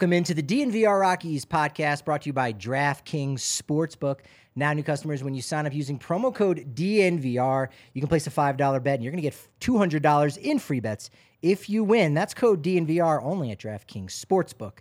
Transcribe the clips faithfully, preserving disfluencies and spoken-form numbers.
Welcome into the D N V R Rockies podcast brought to you by DraftKings Sportsbook. Now, new customers, when you sign up using promo code D N V R, you can place a five dollar bet and you're going to get two hundred dollars in free bets if you win. That's code D N V R only at DraftKings Sportsbook.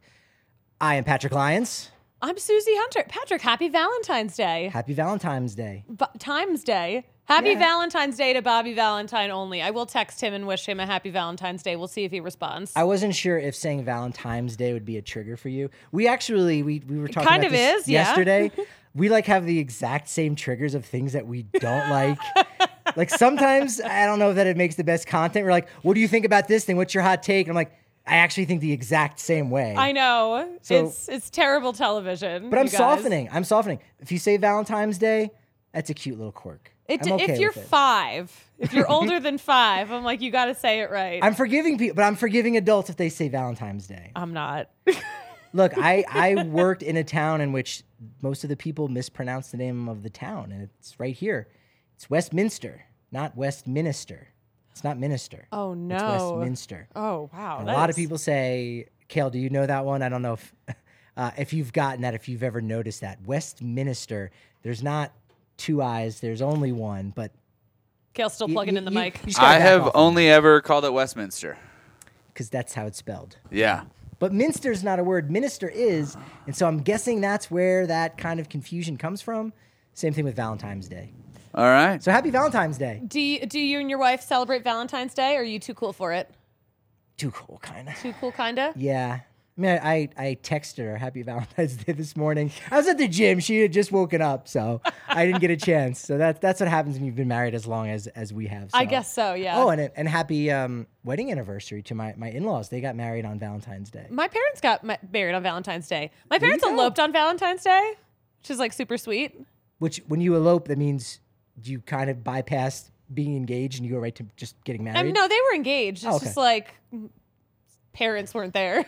I am Patrick Lyons. I'm Susie Hunter. Patrick, happy Valentine's Day. Happy Valentine's Day. B- Times Day. Happy Yeah. Valentine's Day to Bobby Valentine only. I will text him and wish him a happy Valentine's Day. We'll see if he responds. I wasn't sure if saying Valentine's Day would be a trigger for you. We actually, we, we were talking kind about of this is, yeah. yesterday. We like have the exact same triggers of things that we don't like. Like sometimes, I don't know that it makes the best content. We're like, what do you think about this thing? What's your hot take? And I'm like, I actually think the exact same way. I know. So- it's it's terrible television. But I'm you guys. softening. I'm softening. If you say Valentine's Day, that's a cute little quirk. It, I'm okay if you're with it. five, if you're older than five, I'm like, you got to say it right. I'm forgiving people, but I'm forgiving adults if they say Valentine's Day. I'm not. Look, I, I worked in a town in which most of the people mispronounce the name of the town, and it's right here. It's Westminster, not Westminster. It's not Minister. Oh, no. It's Westminster. Oh, wow. And a that lot of is- people say, Kale, do you know that one? I don't know if uh, if you've gotten that, if you've ever noticed that. Westminster, there's not two I's, there's only one, but Kale's still you- plugging you- in the you- mic. you just gotta I back have off only ever called it Westminster. because that's how it's spelled. Yeah. But Minster's not a word. Minister is. And so I'm guessing that's where that kind of confusion comes from. Same thing with Valentine's Day. All right. So happy Valentine's Day. Do you, do you and your wife celebrate Valentine's Day, or are you too cool for it? Too cool, kind of. Too cool, kind of? Yeah. I mean, I, I texted her happy Valentine's Day this morning. I was at the gym. She had just woken up, so I didn't get a chance. So that's that's what happens when you've been married as long as, as we have. I So- guess so, yeah. Oh, and and happy um, wedding anniversary to my, my in-laws. They got married on Valentine's Day. My parents got ma- married on Valentine's Day. My There you parents go. eloped on Valentine's Day, which is like super sweet. Which, when you elope, that means you kind of bypass being engaged and you go right to just getting married. I mean, no, they were engaged. It's Oh, okay. just like mm, parents weren't there.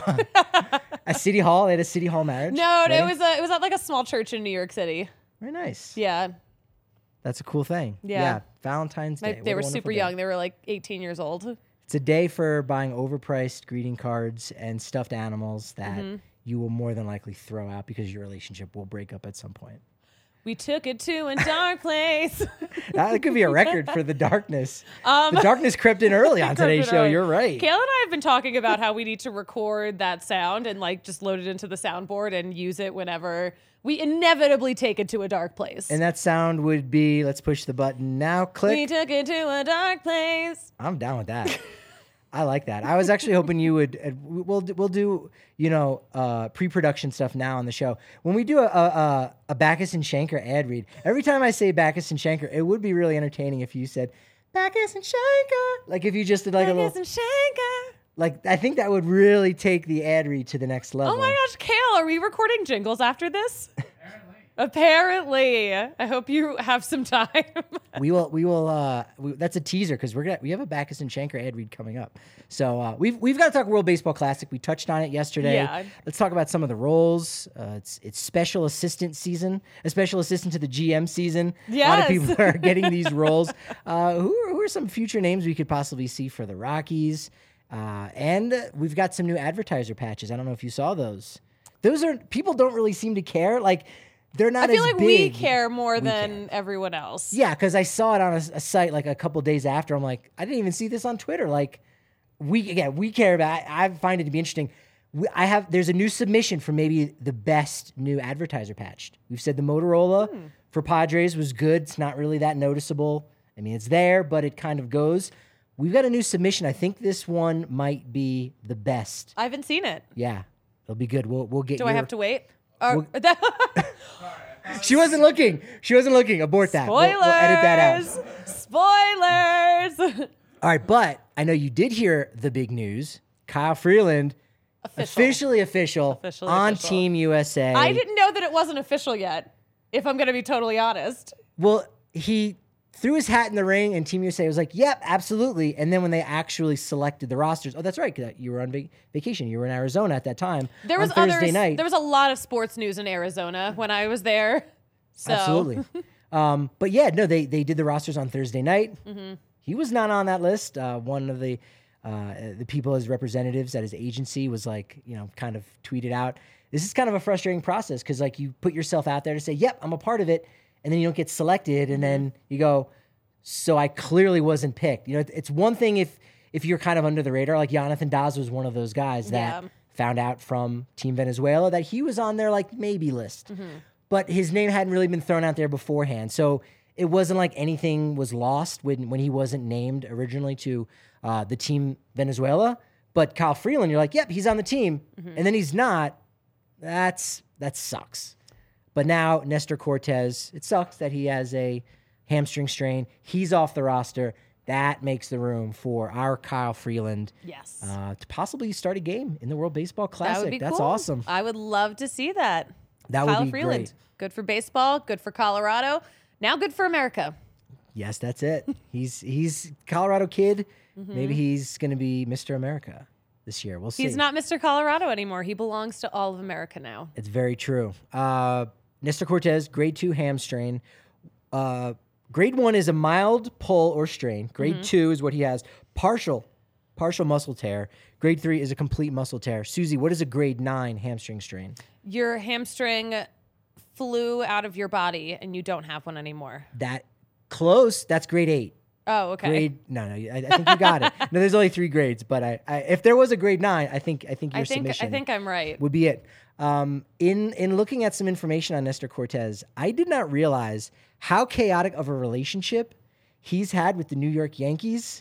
At City Hall, they had a City Hall marriage. No, it wedding? was a, it was at like a small church in New York City. Very nice. Yeah, That's a cool thing. Yeah. Valentine's My- Day. they What were a super wonderful day. young. They were like eighteen years old. It's a day for buying overpriced greeting cards and stuffed animals that Mm-hmm. you will more than likely throw out because your relationship will break up at some point. We took it to a dark place. That could be a record for the darkness. Um, the darkness crept in early on Crept today's in show. early. You're right. Kayla and I have been talking about how we need to record that sound and like just load it into the soundboard and use it whenever we inevitably take it to a dark place. And that sound would be, let's push the button now, click. We took it to a dark place. I'm down with that. I like that. I was actually hoping you would. Uh, we'll we'll do you know uh, pre-production stuff now on the show. When we do a, a a Bacchus and Shanker ad read, every time I say Bacchus and Shanker, it would be really entertaining if you said Bacchus and Shanker. Like if you just did like a Bacchus little. and Shanker. Like I think that would really take the ad read to the next level. Oh my gosh, Kale, are we recording jingles after this? Apparently. I hope you have some time. We will, we will. Uh, we, that's a teaser because we're gonna we have a Bacchus and Shanker ad read coming up. So uh, we've we've got to talk World Baseball Classic. We touched on it yesterday. Yeah. Let's talk about some of the roles. Uh, it's it's special assistant season, a special assistant to the G M season. A lot of Yes. people are getting these roles. Uh, who are, who are some future names we could possibly see for the Rockies? Uh, and we've got some new advertiser patches. I don't know if you saw those. Those are people don't really seem to care. Like they're not. I feel as like we big. care more We than everyone else. Yeah, because I saw it on a, a site like a couple days after. I'm like, I didn't even see this on Twitter. Like, we again, we care about. I, I find it to be interesting. We, I have there's a new submission for maybe the best new advertiser patch. We've said the Motorola Hmm. for Padres was good. It's not really that noticeable. I mean, it's there, but it kind of goes. We've got a new submission. I think this one might be the best. I haven't seen it. Yeah, it'll be good. We'll we'll get. Do your, I have to wait? Or, She wasn't looking. She wasn't looking. Abort that. We'll, Spoilers! we'll edit that out. Spoilers! All right, but I know you did hear the big news. Kyle Freeland, Official. officially official Officially on official. Team U S A. I didn't know that it wasn't official yet, if I'm going to be totally honest. Well, he threw his hat in the ring, and Team U S A was like, yep, absolutely. And then when they actually selected the rosters, oh, that's right, 'cause you were on vac- vacation. You were in Arizona at that time. There was on Thursday others, night. There was a lot of sports news in Arizona when I was there. So. Absolutely. um, but yeah, no, they they did the rosters on Thursday night. Mm-hmm. He was not on that list. Uh, one of the uh, the people as representatives at his agency was like, you know, kind of tweeted out, this is kind of a frustrating process because like you put yourself out there to say, yep, I'm a part of it. And then you don't get selected. And then you go, so I clearly wasn't picked. You know, it's one thing if, if you're kind of under the radar, like Jonathan Dawes was one of those guys that Yeah. found out from Team Venezuela that he was on their like maybe list, but his name hadn't really been thrown out there beforehand. So it wasn't like anything was lost when, when he wasn't named originally to uh, the Team Venezuela. But Kyle Freeland, you're like, yep, he's on the team. And then he's not. That's, that sucks. But now Nestor Cortez, it sucks that he has a hamstring strain. He's off the roster. That makes the room for our Kyle Freeland Yes. uh, to possibly start a game in the World Baseball That Classic. would be That's cool. awesome. I would love to see that. That would Kyle be Freeland. great. Good for baseball, good for Colorado. Now good for America. Yes, that's it. He's he's Colorado kid. Maybe he's going to be Mister America this year. We'll see. He's not Mister Colorado anymore. He belongs to all of America now. It's very true. Uh, Nestor Cortez, grade two hamstring. Uh, grade one is a mild pull or strain. Grade two is what he has. Partial, partial muscle tear. Grade three is a complete muscle tear. Susie, what is a grade nine hamstring strain? Your hamstring flew out of your body and you don't have one anymore. That close. That's grade eight. Oh, okay. Grade no, no. I, I think you got it. No, there's only three grades, but I, I, if there was a grade nine, I think I think your I think submission I think I'm right. would be it. Um, in in looking at some information on Nestor Cortez, I did not realize how chaotic of a relationship he's had with the New York Yankees.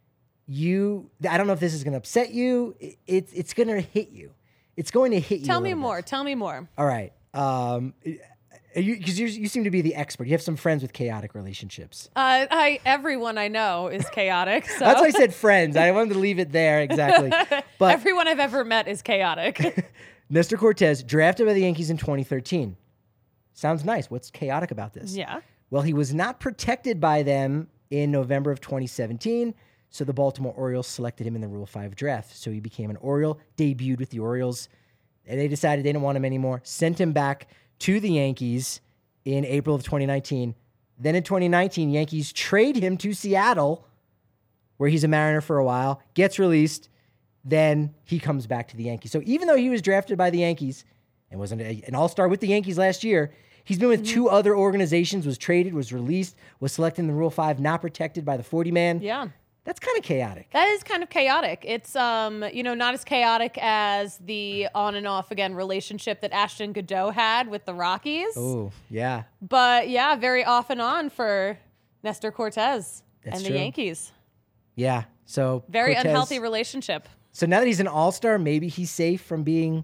You, I don't know if this is going to upset you. It, it's it's going to hit you. It's going to hit you. Tell a me little more. bit. Tell me more. All right. Um, because you, you seem to be the expert. You have some friends with chaotic relationships. Uh, I everyone I know is chaotic. So That's why I said friends. I wanted to leave it there exactly. But everyone I've ever met is chaotic. Nestor Cortez, drafted by the Yankees in twenty thirteen. Sounds nice. What's chaotic about this? Yeah. Well, he was not protected by them in November of twenty seventeen, so the Baltimore Orioles selected him in the Rule five draft. So he became an Oriole, debuted with the Orioles, and they decided they didn't want him anymore, sent him back to the Yankees in April of twenty nineteen. Then in twenty nineteen, Yankees trade him to Seattle, where he's a Mariner for a while, gets released, then he comes back to the Yankees. So even though he was drafted by the Yankees and was an, an all-star with the Yankees last year, he's been with mm-hmm. two other organizations, was traded, was released, was selected in the Rule five, not protected by the forty man. Yeah. That's kind of chaotic. That is kind of chaotic. It's, um, you know, not as chaotic as the on and off again relationship that Ashton Godot had with the Rockies. Oh, yeah. But yeah, very off and on for Nestor Cortez That's and true. the Yankees. Yeah. So Very Cortez, unhealthy relationship. So now that he's an all-star, maybe he's safe from being...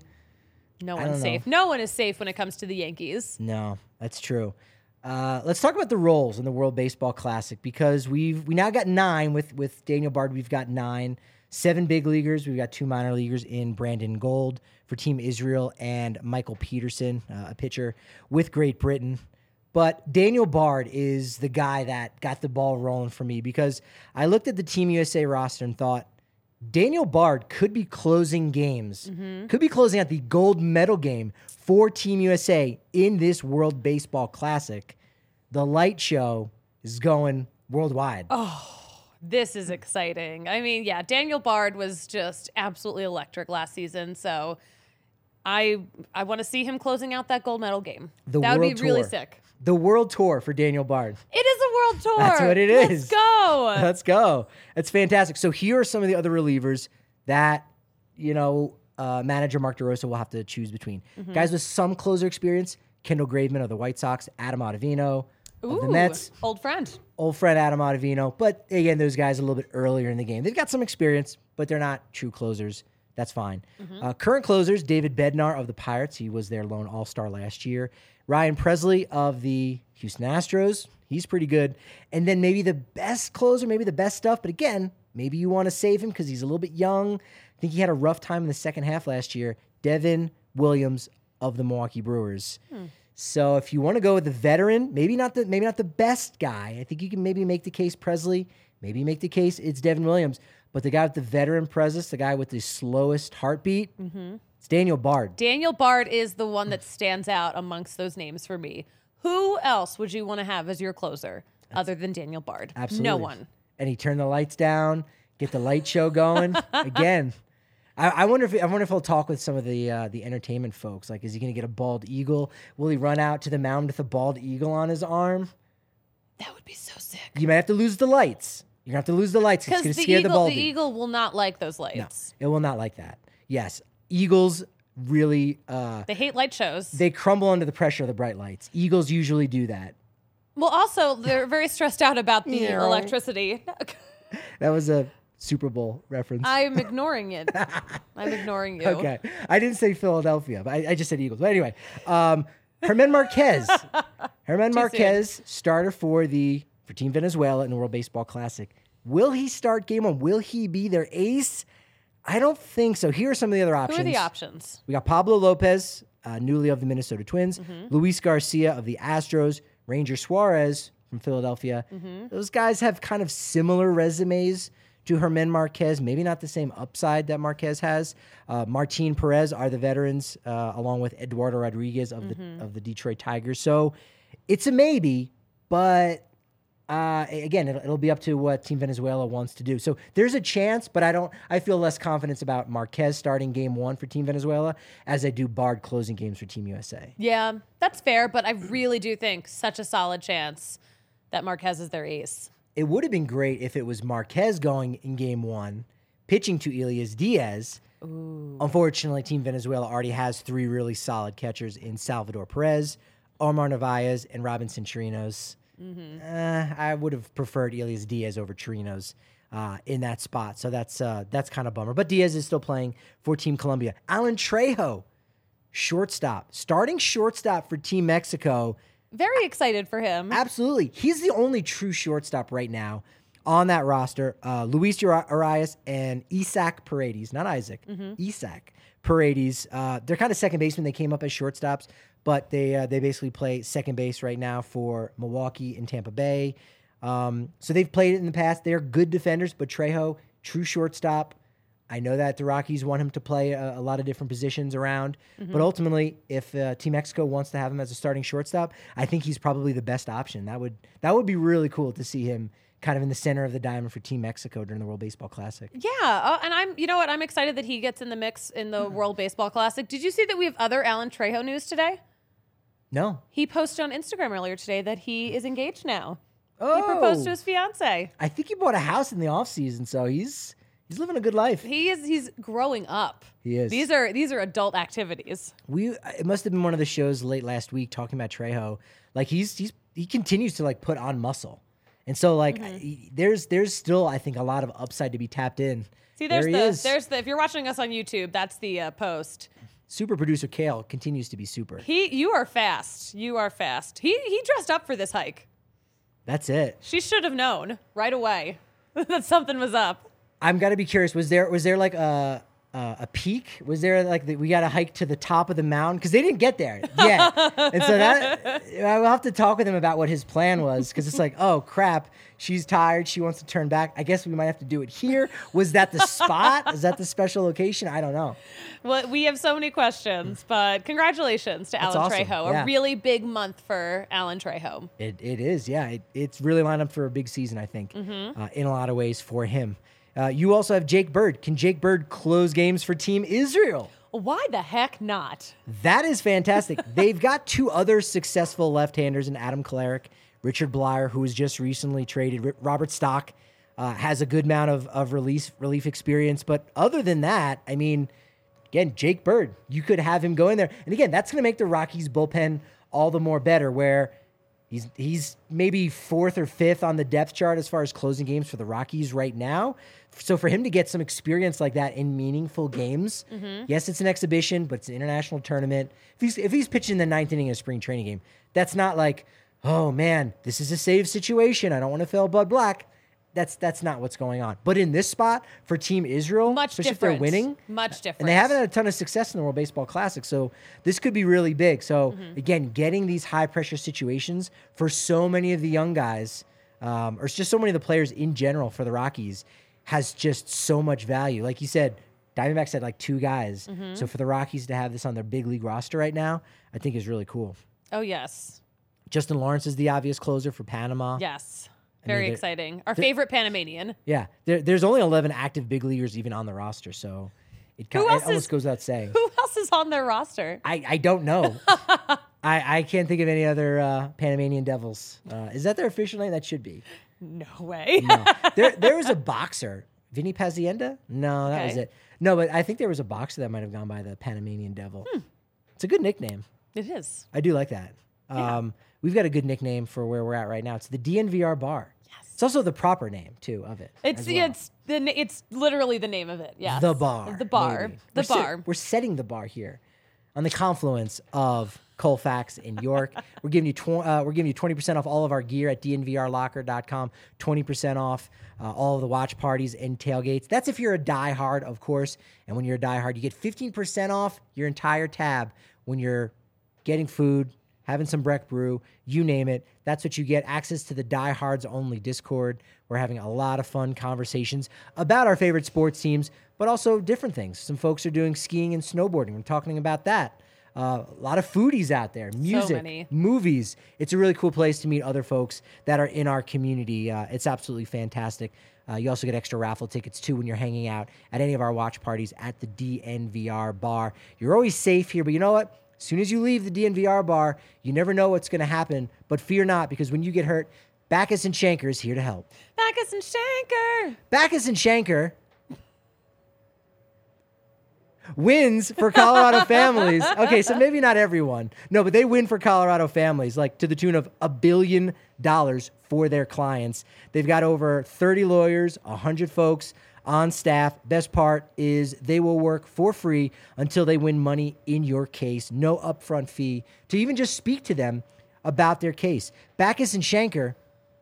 No I one's don't know. safe. No one is safe when it comes to the Yankees. No, that's true. Uh, let's talk about the roles in the World Baseball Classic because we've we now got nine with with Daniel Bard. We've got nine, seven big leaguers. We've got two minor leaguers in Brandon Gold for Team Israel and Michael Peterson, uh, a pitcher with Great Britain. But Daniel Bard is the guy that got the ball rolling for me because I looked at the Team U S A roster and thought Daniel Bard could be closing games, mm-hmm. could be closing out the gold medal game for Team U S A in this World Baseball Classic. The light show is going worldwide. Oh, this is exciting. I mean, yeah, Daniel Bard was just absolutely electric last season. So I I want to see him closing out that gold medal game. The that would World be really Tour. sick. The World Tour for Daniel Bard. It is a world tour. That's what it Let's is. go. Let's go. It's fantastic. So here are some of the other relievers that, you know, uh, manager Mark DeRosa will have to choose between. Mm-hmm. Guys with some closer experience, Kendall Graveman of the White Sox, Adam Ottavino Ooh, of the Mets. Old friend. Old friend Adam Ottavino. But again, those guys a little bit earlier in the game. They've got some experience, but they're not true closers. That's fine. Mm-hmm. Uh, current closers, David Bednar of the Pirates. He was their lone all-star last year. Ryan Presley of the Houston Astros. He's pretty good. And then maybe the best closer, maybe the best stuff. But again, maybe you want to save him because he's a little bit young. I think he had a rough time in the second half last year. Devin Williams of the Milwaukee Brewers. Hmm. So if you want to go with the veteran, maybe not the maybe not the best guy. I think you can maybe make the case Presley. Maybe make the case it's Devin Williams. But the guy with the veteran presence, the guy with the slowest heartbeat, mm-hmm. it's Daniel Bard. Daniel Bard is the one that stands out amongst those names for me. Who else would you want to have as your closer That's, other than Daniel Bard? Absolutely. No one. And he turned the lights down, Get the light show going again. I, I wonder if I wonder if he'll talk with some of the uh, the entertainment folks. Like, is he going to get a bald eagle? Will he run out to the mound with a bald eagle on his arm? That would be so sick. You might have to lose the lights. You're going to have to lose the lights. It's going to scare eagle, the baldy. the eagle will not like those lights. No, it will not like that. Yes, eagles really uh, they hate light shows. They crumble under the pressure of the bright lights. Eagles usually do that. Well, also they're very stressed out about the Yeah. electricity. That was a Super Bowl reference. I'm ignoring it. I'm ignoring you. Okay. I didn't say Philadelphia, but I, I just said Eagles. But anyway, um, Herman Marquez. Herman Too Marquez, starter for the for Team Venezuela in the World Baseball Classic. Will he start game one? Will he be their ace? I don't think so. Here are some of the other options. Who are the options? We got Pablo Lopez, uh, newly of the Minnesota Twins, Mm-hmm. Luis Garcia of the Astros, Ranger Suarez from Philadelphia. Mm-hmm. Those guys have kind of similar resumes to Herman Marquez, maybe not the same upside that Marquez has. Uh, Martin Perez are the veterans, uh, along with Eduardo Rodriguez of Mm-hmm. the of the Detroit Tigers. So it's a maybe, but uh, again, it'll, it'll be up to what Team Venezuela wants to do. So there's a chance, but I don't. I feel less confidence about Marquez starting game one for Team Venezuela as I do Bard closing games for Team U S A. Yeah, that's fair, but I really do think such a solid chance that Marquez is their ace. It would have been great if it was Marquez going in game one, pitching to Elias Diaz. Ooh. Unfortunately, Team Venezuela already has three really solid catchers in Salvador Perez, Omar Narvaez, and Robinson Chirinos. Mm-hmm. Uh, I would have preferred Elias Diaz over Chirinos uh, in that spot. So that's uh, that's kind of bummer. But Diaz is still playing for Team Colombia. Alan Trejo, shortstop. Starting shortstop for Team Mexico. Very excited for him. Absolutely. He's the only true shortstop right now on that roster. Uh, Luis Uri- Arias and Isaac Paredes, not Isaac, Mm-hmm. Isaac Paredes. Uh, they're kind of second basemen. They came up as shortstops, but they uh, they basically play second base right now for Milwaukee and Tampa Bay. Um, so they've played it in the past. They're good defenders, but Trejo, true shortstop. I know that the Rockies want him to play a, a lot of different positions around, Mm-hmm. but ultimately, if uh, Team Mexico wants to have him as a starting shortstop, I think he's probably the best option. That would that would be really cool to see him kind of in the center of the diamond for Team Mexico during the World Baseball Classic. Yeah, uh, and I'm, you know what, I'm excited that he gets in the mix in the World Baseball Classic. Did you see that we have other Alan Trejo news today? No. He posted on Instagram earlier today that he is engaged now. Oh. He proposed to his fiance. I think he bought a house in the offseason, so he's he's living a good life. He is he's growing up. He is. These are these are adult activities. We it must have been one of the shows late last week talking about Trejo. Like he's he's he continues to like put on muscle. And so, like, Mm-hmm. I- there's there's still, I think, a lot of upside to be tapped in. See, there's there he the is. there's the if you're watching us on YouTube, that's the uh, post. Super producer Kale continues to be super. He you are fast. You are fast. He he dressed up for this hike. That's it. She should have known right away that something was up. I'm gotta be curious. Was there was there like a uh, a peak? Was there like the, we got to hike to the top of the mountain because they didn't get there yet? And so that I will have to talk with him about what his plan was because it's like, oh crap, she's tired. She wants to turn back. I guess we might have to do it here. Was that the spot? Is that the special location? I don't know. Well, we have so many questions, but congratulations to That's Alan awesome. Trejo. Yeah. A really big month for Alan Trejo. It it is, yeah. It, it's really lined up for a big season, I think, uh, in a lot of ways for him. Uh, you also have Jake Bird. Can Jake Bird close games for Team Israel? Why the heck not? That is fantastic. They've got two other successful left-handers in Adam Kolarek, Richard Blyer, who was just recently traded. R- Robert Stock uh, has a good amount of, of release, relief experience. But other than that, I mean, again, Jake Bird, you could have him go in there. And again, that's going to make the Rockies bullpen all the more better, where he's he's maybe fourth or fifth on the depth chart as far as closing games for the Rockies right now. So for him to get some experience like that in meaningful games, Mm-hmm. yes, it's an exhibition, but it's an international tournament. If he's if he's pitching the ninth inning of a spring training game, that's not like, oh man, this is a save situation. I don't want to fail Bud Black. That's that's not what's going on. But in this spot for Team Israel, Much especially different. if they're winning, Much different. and they haven't had a ton of success in the World Baseball Classic, so this could be really big. So Mm-hmm. again, getting these high pressure situations for so many of the young guys, um, or just so many of the players in general for the Rockies, has just so much value. Like you said, Diamondbacks had like two guys. Mm-hmm. So for the Rockies to have this on their big league roster right now, I think is really cool. Oh, yes. Justin Lawrence is the obvious closer for Panama. Yes. Very they're- exciting. Our favorite Panamanian. Yeah, there, there's only eleven active big leaguers even on the roster, so it, Who kind, else it almost is- goes without saying. Who else is on their roster? I, I don't know. I, I can't think of any other uh, Panamanian Devils. Uh, is that their official name? That should be. No way. No. there there was a boxer, Vinny Pazienda. No, that was Okay. it. No, but I think there was a boxer that might have gone by the Panamanian Devil. Hmm. It's a good nickname. It is. I do like that. Um, we've got a good nickname for where we're at right now. It's the D N V R Bar. Yes. It's also the proper name too of it. It's as well. it's the na- it's literally the name of it. Yeah. The bar. The bar. maybe. The We're set- bar. we're setting the bar here on the confluence of Colfax and York. we're giving you tw- uh, we're giving you twenty percent off all of our gear at d n v r locker dot com. twenty percent off uh, all of the watch parties and tailgates. That's if you're a diehard, of course. And when you're a diehard, you get fifteen percent off your entire tab when you're getting food, having some Breck Brew, you name it. That's what you get. Access to the Diehards Only Discord. We're having a lot of fun conversations about our favorite sports teams, but also different things. Some folks are doing skiing and snowboarding. We're talking about that. Uh, a lot of foodies out there, music, many. movies. It's a really cool place to meet other folks that are in our community. Uh, it's absolutely fantastic. Uh, you also get extra raffle tickets, too, when you're hanging out at any of our watch parties at the D N V R bar. You're always safe here, but you know what? As soon as you leave the D N V R bar, you never know what's going to happen. But fear not, because when you get hurt, Backus and Shanker is here to help. Backus and Shanker. Backus and Shanker wins for Colorado families. Okay, so maybe not everyone. No, but they win for Colorado families, like to the tune of a billion dollars for their clients. They've got over thirty lawyers, one hundred folks on staff. Best part is they will work for free until they win money in your case. No upfront fee to even just speak to them about their case. Backus and Shanker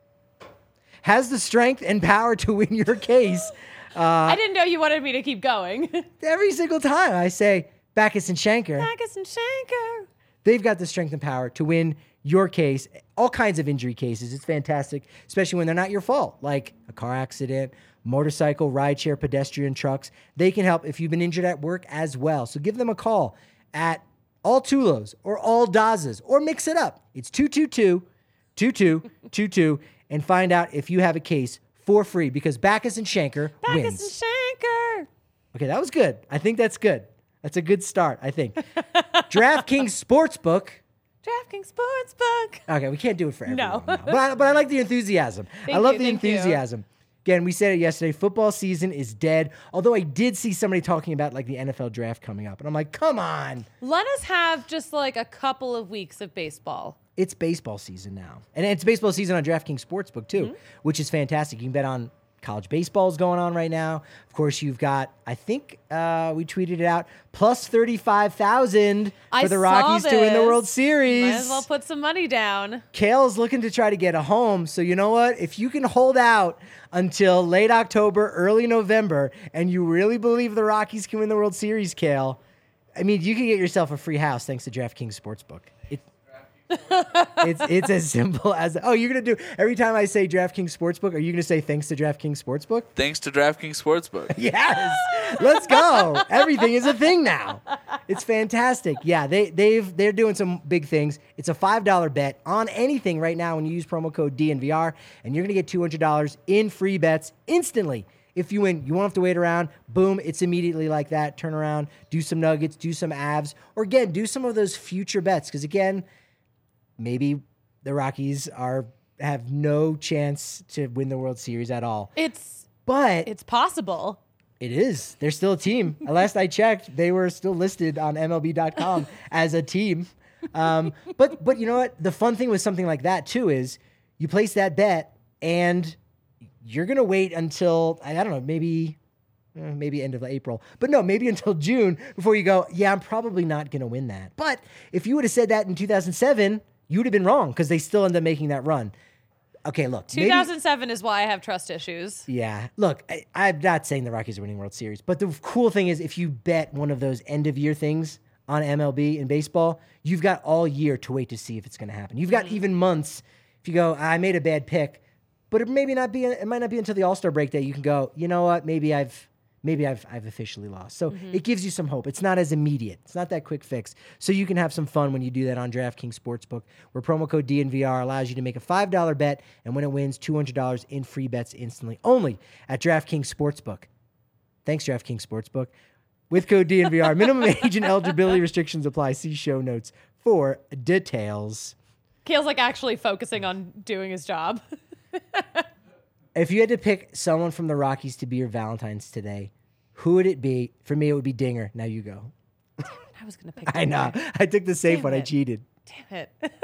has the strength and power to win your case. Uh, I didn't know you wanted me to keep going. Every single time I say Backus and Shanker, Backus and Shanker. they've got the strength and power to win your case, all kinds of injury cases. It's fantastic, especially when they're not your fault, like a car accident, motorcycle, rideshare, pedestrian, trucks. They can help if you've been injured at work as well. So give them a call at all Tulos or all Dazas or mix it up. It's two two two, two two two two and find out if you have a case for free because Backus and Shanker Backus wins. and Shanker. Okay, that was good. I think that's good. That's a good start, I think. DraftKings Sportsbook. DraftKings Sportsbook. Okay, we can't do it for everyone. No. now. But, I, but I like the enthusiasm. I Thank love you, the thank you. enthusiasm. Again, we said it yesterday. Football season is dead. Although I did see somebody talking about like the N F L draft coming up. And I'm like, come on. Let us have just like a couple of weeks of baseball. It's baseball season now. And it's baseball season on DraftKings Sportsbook too, Mm-hmm. which is fantastic. You can bet on college baseball is going on right now. Of course, you've got, I think uh, we tweeted it out, plus thirty-five thousand I for the saw Rockies to win the this. World Series. Might as well put some money down. Kale's looking to try to get a home. So you know what? If you can hold out until late October, early November, and you really believe the Rockies can win the World Series, Kale, I mean, you can get yourself a free house thanks to DraftKings Sportsbook. It, it's it's as simple as, oh, you're going to do, every time I say DraftKings Sportsbook, are you going to say thanks to DraftKings Sportsbook? Thanks to DraftKings Sportsbook. Yes. Let's go. Everything is a thing now. It's fantastic. Yeah, they they've they're doing some big things. It's a five dollar bet on anything right now when you use promo code D N V R, and you're going to get two hundred dollars in free bets instantly. If you win, you won't have to wait around. Boom, it's immediately like that. Turn around, do some nuggets, do some abs, or again, do some of those future bets because again, maybe the Rockies are have no chance to win the World Series at all. It's But it's possible. it is. They're still a team. Last I checked, they were still listed on M L B dot com as a team. Um, but but you know what? The fun thing with something like that too is you place that bet and you're gonna wait until I don't know, maybe uh, maybe end of April, but no, maybe until June before you go. Yeah, I'm probably not gonna win that. But if you would have said that in two thousand seven, you would have been wrong because they still end up making that run. Okay, look, maybe- two thousand seven is why I have trust issues. yeah. Look, I, I'm not saying the Rockies are winning World Series, but the cool thing is if you bet one of those end of year things on M L B in baseball, you've got all year to wait to see if it's going to happen. You've got even months. If you go, I made a bad pick, but it maybe not be. It might not be until the All-Star break that you can go, you know what? Maybe I've maybe I've I've officially lost. So it gives you some hope. It's not as immediate. It's not that quick fix. So you can have some fun when you do that on DraftKings Sportsbook, where promo code D N V R allows you to make a five dollar bet, and when it wins, two hundred dollars in free bets instantly, only at DraftKings Sportsbook. Thanks, DraftKings Sportsbook. With code D N V R, minimum age and eligibility restrictions apply. See show notes for details. Kale's like actually focusing on doing his job. If you had to pick someone from the Rockies to be your Valentine's today, who would it be? For me, it would be Dinger. Now you go. I was going to pick I know. Dinger. I took the safe Damn one. I it. cheated. Damn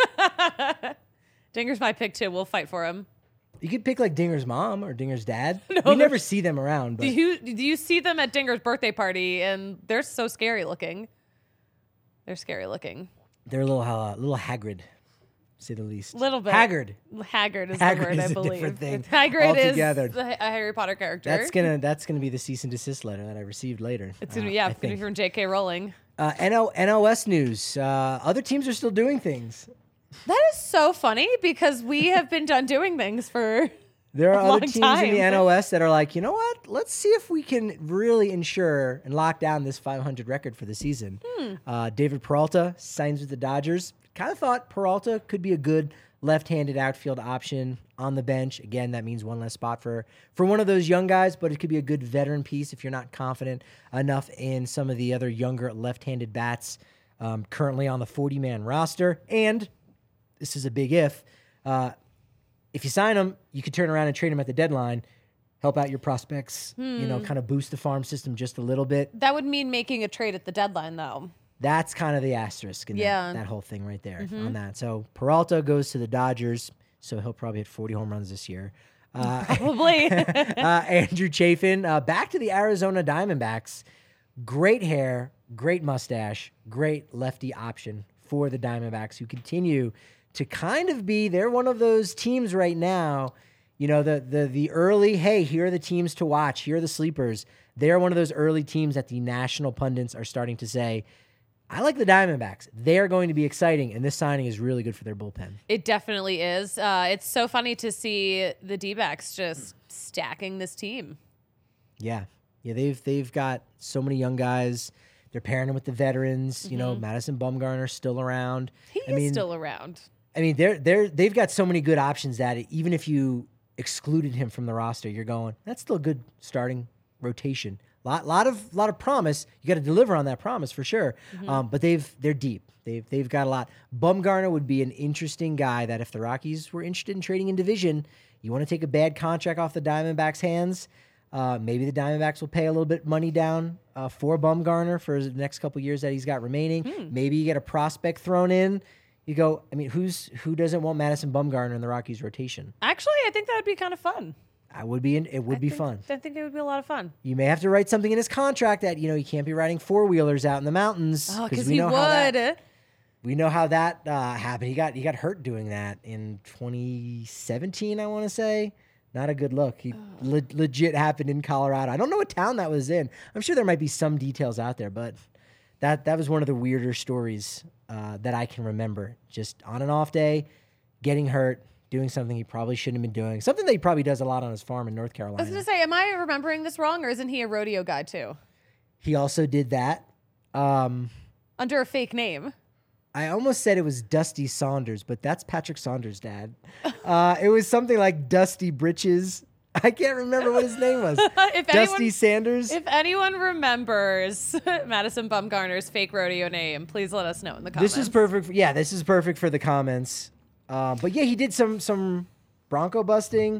it. Dinger's my pick too. We'll fight for him. You could pick like Dinger's mom or Dinger's dad. No, we never there's- see them around. But Do you do you see them at Dinger's birthday party? And they're so scary looking. They're scary looking. they're a little, uh, little Hagrid, to say the least. Little bit. Haggard. Haggard is Hagrid the word, is I a believe. different thing Hagrid is altogether. the, a Harry Potter character. That's gonna that's gonna be the cease and desist letter that I received later. It's gonna uh, be, yeah, I it's gonna be think. from J K Rowling. Uh, N O N O S news. Uh, other teams are still doing things. That is so funny because we have been done doing things for. There are A other long teams in time. the N O S that are like, you know what? Let's see if we can really ensure and lock down this five hundred record for the season. Hmm. Uh, David Peralta signs with the Dodgers. Kind of thought Peralta could be a good left-handed outfield option on the bench. Again, that means one less spot for, for one of those young guys, but it could be a good veteran piece if you're not confident enough in some of the other younger left-handed bats um, currently on the forty-man roster. And this is a big if. Uh, If you sign them, you could turn around and trade them at the deadline, help out your prospects, you know, kind of boost the farm system just a little bit. That would mean making a trade at the deadline, though. That's kind of the asterisk in Yeah. that, that whole thing right there on that. So Peralta goes to the Dodgers, so he'll probably hit forty home runs this year. Uh, Probably. uh, Andrew Chafin, uh, back to the Arizona Diamondbacks. Great hair, great mustache, great lefty option for the Diamondbacks, who continue to kind of be, they're one of those teams right now, you know, the the the early, hey, here are the teams to watch, here are the sleepers. They're one of those early teams that the national pundits are starting to say, I like the Diamondbacks. They're going to be exciting, and this signing is really good for their bullpen. It definitely is. Uh, it's so funny to see the D-backs just stacking this team. Yeah. Yeah, they've they've got so many young guys. They're pairing them with the veterans. You know, Madison Bumgarner's still around. He I is mean, still around. I mean, they're they're they've got so many good options that even if you excluded him from the roster, you're going, that's still a good starting rotation. Lot lot of lot of promise. You got to deliver on that promise for sure. Um, but they've they're deep. They've they've got a lot. Bumgarner would be an interesting guy that if the Rockies were interested in trading in division, you want to take a bad contract off the Diamondbacks' hands. Uh, maybe the Diamondbacks will pay a little bit money down uh, for Bumgarner for the next couple years that he's got remaining. Maybe you get a prospect thrown in. You go, I mean, who's who doesn't want Madison Bumgarner in the Rockies rotation? Actually, I think that would be kind of fun. I would be, in, it would I be think- fun. I think it would be a lot of fun. You may have to write something in his contract that you know he can't be riding four wheelers out in the mountains Oh, because we he know would. how that we know how that uh, happened. He got he got hurt doing that in twenty seventeen, I want to say. Not a good look. He le- legit happened in Colorado. I don't know what town that was in. I'm sure there might be some details out there, but that that was one of the weirder stories uh, that I can remember. Just on an off day, getting hurt, doing something he probably shouldn't have been doing. Something that he probably does a lot on his farm in North I Carolina. was going to say, am I remembering this wrong, or isn't he a rodeo guy too? He also did that. Um, Under a fake name. I almost said it was Dusty Saunders, but that's Patrick Saunders' dad. Uh, it was something like Dusty Britches. I can't remember what his name was. if Dusty anyone, Sanders. if anyone remembers Madison Bumgarner's fake rodeo name, please let us know in the comments. This is perfect. For, yeah, this is perfect for the comments. Uh, but yeah, he did some some Bronco busting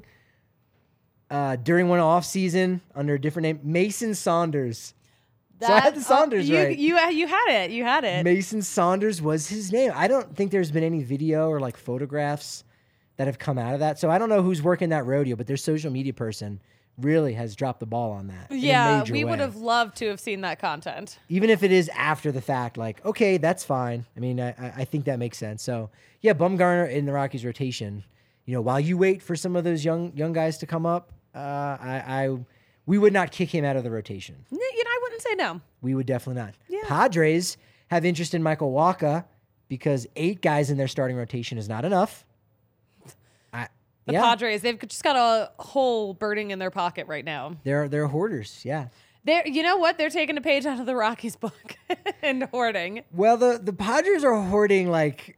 uh, during one off season under a different name, Mason Saunders. So I had the Saunders you, right. You you had it. You had it. Mason Saunders was his name. I don't think there's been any video or like photographs that have come out of that. So I don't know who's working that rodeo, but their social media person really has dropped the ball on that. in a Yeah, major we way. would have loved to have seen that content. Even if it is after the fact, like, okay, that's fine. I mean, I, I I think that makes sense. So yeah, Bumgarner in the Rockies rotation. You know, while you wait for some of those young young guys to come up, uh, I, I we would not kick him out of the rotation. N- You know, I wouldn't say no. We would definitely not. Yeah. Padres have interest in Michael Wacha because eight guys in their starting rotation is not enough. I, The yeah, Padres, they've just got a hole burning in their pocket right now. they're they're hoarders. Yeah, They're, you know what? They're taking a page out of the Rockies book and hoarding. Well, the, the Padres are hoarding like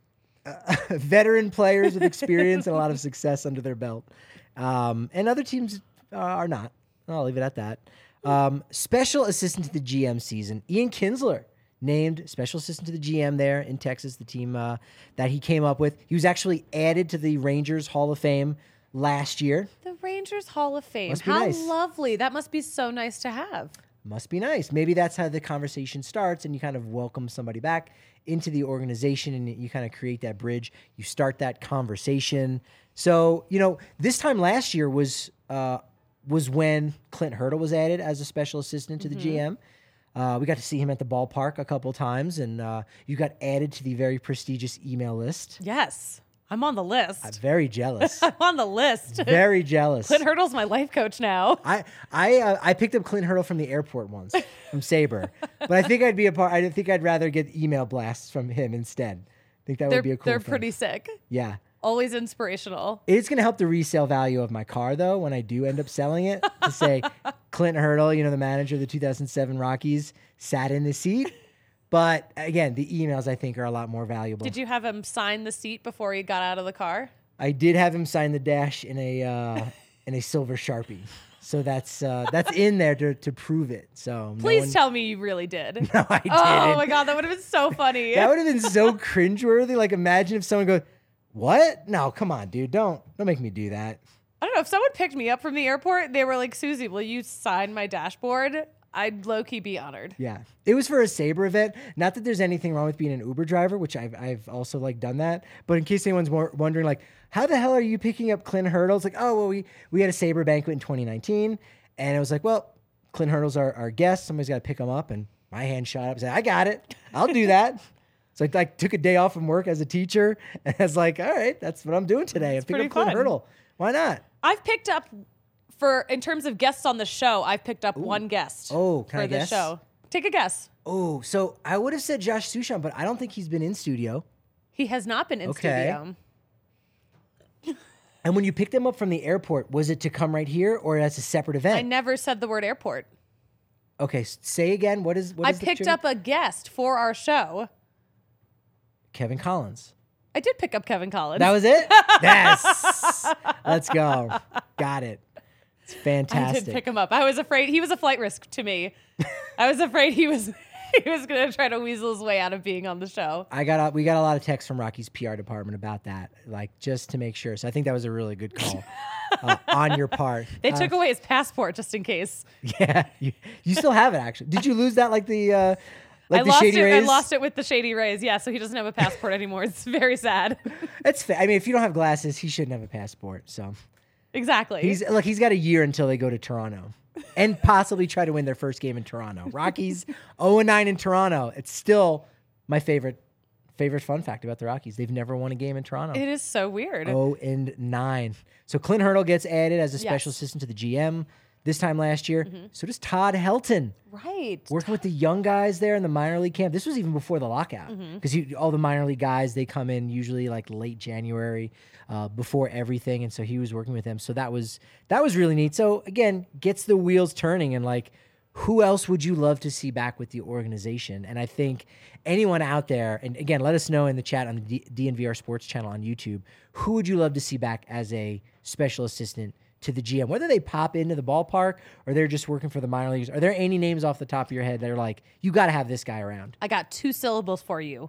uh, veteran players with experience and a lot of success under their belt. Um, and other teams uh, are not. I'll leave it at that. Um, special assistant to the G M season, Ian Kinsler, named special assistant to the G M there in Texas, the team uh, that he came up with. He was actually added to the Rangers Hall of Fame last year. The Rangers Hall of Fame. Must be How nice. lovely. That must be so nice to have. Must be nice. Maybe that's how the conversation starts and you kind of welcome somebody back into the organization and you kind of create that bridge. You start that conversation. So, you know, this time last year was uh, was when Clint Hurdle was added as a special assistant to the mm-hmm. G M. Uh, we got to see him at the ballpark a couple times, and uh, you got added to the very prestigious email list. Yes. I'm on the list. I'm very jealous. I'm on the list. Very jealous. Clint Hurdle's my life coach now. I I uh, I picked up Clint Hurdle from the airport once from Sabre, but I think I'd be a part. I think I'd rather get email blasts from him instead. I think that they're, would be a cool. They're thing. pretty sick. Yeah. Always inspirational. It's going to help the resale value of my car, though, when I do end up selling it. To say Clint Hurdle, you know, the manager of the two thousand seven Rockies, sat in the seat. But again, the emails I think are a lot more valuable. Did you have him sign the seat before he got out of the car? I did have him sign the dash in a uh, in a silver Sharpie. So that's uh, that's in there to, to prove it. So please no one, tell me you really did. No, I didn't. Oh my god, that would have been so funny. That would have been so cringeworthy. Like imagine if someone goes, "What? No, come on, dude. Don't don't make me do that." I don't know. If someone picked me up from the airport, they were like, "Susie, will you sign my dashboard?" I'd low-key be honored. Yeah. It was for a Sabre event. Not that there's anything wrong with being an Uber driver, which I've, I've also like done that. But in case anyone's more wondering, like, how the hell are you picking up Clint Hurdle? It's like, oh, well, we, we had a Sabre banquet in twenty nineteen. And it was like, well, Clint Hurdle's our, our guest. Somebody's got to pick him up. And my hand shot up and said, I got it. I'll do that. So I like, took a day off from work as a teacher. And I was like, all right, that's what I'm doing today. I'm picking up Clint Hurdle. Why not? I've picked up... For in terms of guests on the show, I've picked up Ooh. one guest oh, can for I the guess? show. Take a guess. Oh, so I would have said Josh Sushan, but I don't think he's been in studio. He has not been in okay. studio. And when you picked him up from the airport, was it to come right here or as a separate event? I never said the word airport. Okay, say again. What is what I is the picked trigger? up a guest for our show. Kevin Collins. I did pick up Kevin Collins. That was it? Yes. Let's go. Got it. It's fantastic. I did pick him up. I was afraid he was a flight risk to me. I was afraid he was he was going to try to weasel his way out of being on the show. I got a, we got a lot of texts from Rocky's P R department about that, like just to make sure. So I think that was a really good call uh, on your part. They uh, took away his passport just in case. Yeah, you, you still have it actually. Did you lose that like the uh, like I the lost Shady it. Rays? I lost it with the Shady Rays. Yeah, so he doesn't have a passport anymore. It's very sad. That's fair. I mean, if you don't have glasses, he shouldn't have a passport. So. Exactly. He's look. He's got a year until they go to Toronto, and possibly try to win their first game in Toronto. Rockies zero and nine in Toronto. It's still my favorite favorite fun fact about the Rockies. They've never won a game in Toronto. It is so weird. zero and nine. So Clint Hurdle gets added as a special Yes. assistant to the G M this time last year. Mm-hmm. So does Todd Helton. Right. Working with the young guys there in the minor league camp. This was even before the lockout because Mm-hmm. all the minor league guys, they come in usually like late January uh, before everything. And so he was working with them. So that was that was really neat. So again, gets the wheels turning and like, who else would you love to see back with the organization? And I think anyone out there, and again, let us know in the chat on the D- DNVR Sports channel on YouTube, who would you love to see back as a special assistant to the G M, whether they pop into the ballpark or they're just working for the minor leagues? Are there any names off the top of your head that are like, you got to have this guy around? I got two syllables for you.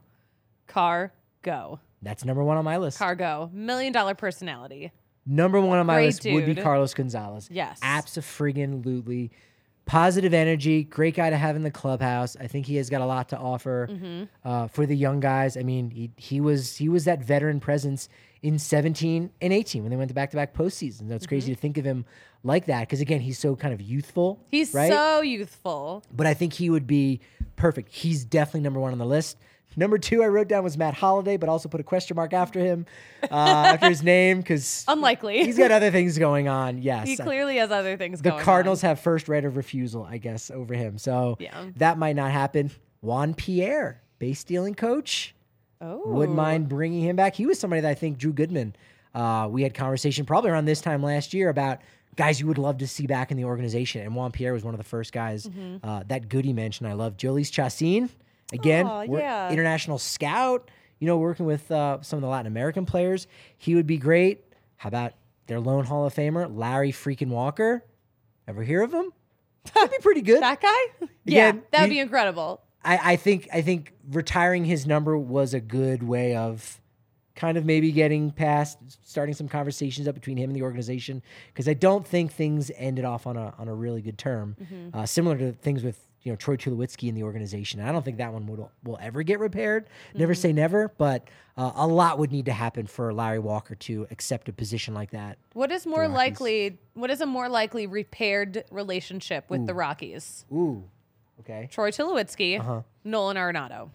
Cargo. That's number one on my list. Cargo. Million dollar personality. Number one on my Great list would be dude. Carlos Gonzalez. Yes. Abso-friggin-lutely. Positive energy, great guy to have in the clubhouse. I think he has got a lot to offer Mm-hmm. uh, for the young guys. I mean, he he was he was that veteran presence in seventeen and eighteen when they went to back-to-back postseasons. It's crazy to think of him like that because, again, he's so kind of youthful. He's right? so youthful. But I think he would be perfect. He's definitely number one on the list. Number two I wrote down was Matt Holliday, but also put a question mark after him, uh, after his name, because Unlikely. he's got other things going on. Yes, He clearly has other things the going Cardinals on. have first right of refusal, I guess, over him. So Yeah. that might not happen. Juan Pierre, base stealing coach, Oh. wouldn't mind bringing him back. He was somebody that I think Drew Goodman. Uh, we had conversation probably around this time last year about guys you would love to see back in the organization. And Juan Pierre was one of the first guys Mm-hmm. uh, that Goody mentioned. I love Jolice Chassin. Again, Aw, we're yeah. international scout, you know, working with uh, some of the Latin American players. He would be great. How about their lone Hall of Famer, Larry freaking Walker? Ever hear of him? That'd be pretty good. That guy? Yeah, Again, that would you- be incredible. I, I think I think retiring his number was a good way of kind of maybe getting past, starting some conversations up between him and the organization, because I don't think things ended off on a on a really good term, Mm-hmm. uh, similar to things with you know Troy Tulowitzki and the organization. I don't think that one will will ever get repaired. Never Mm-hmm. say never, but uh, a lot would need to happen for Larry Walker to accept a position like that. What is more Rockies. likely? What is a more likely repaired relationship with the Rockies? Ooh, okay. Troy Tulowitzki, Uh-huh. Nolan Arenado.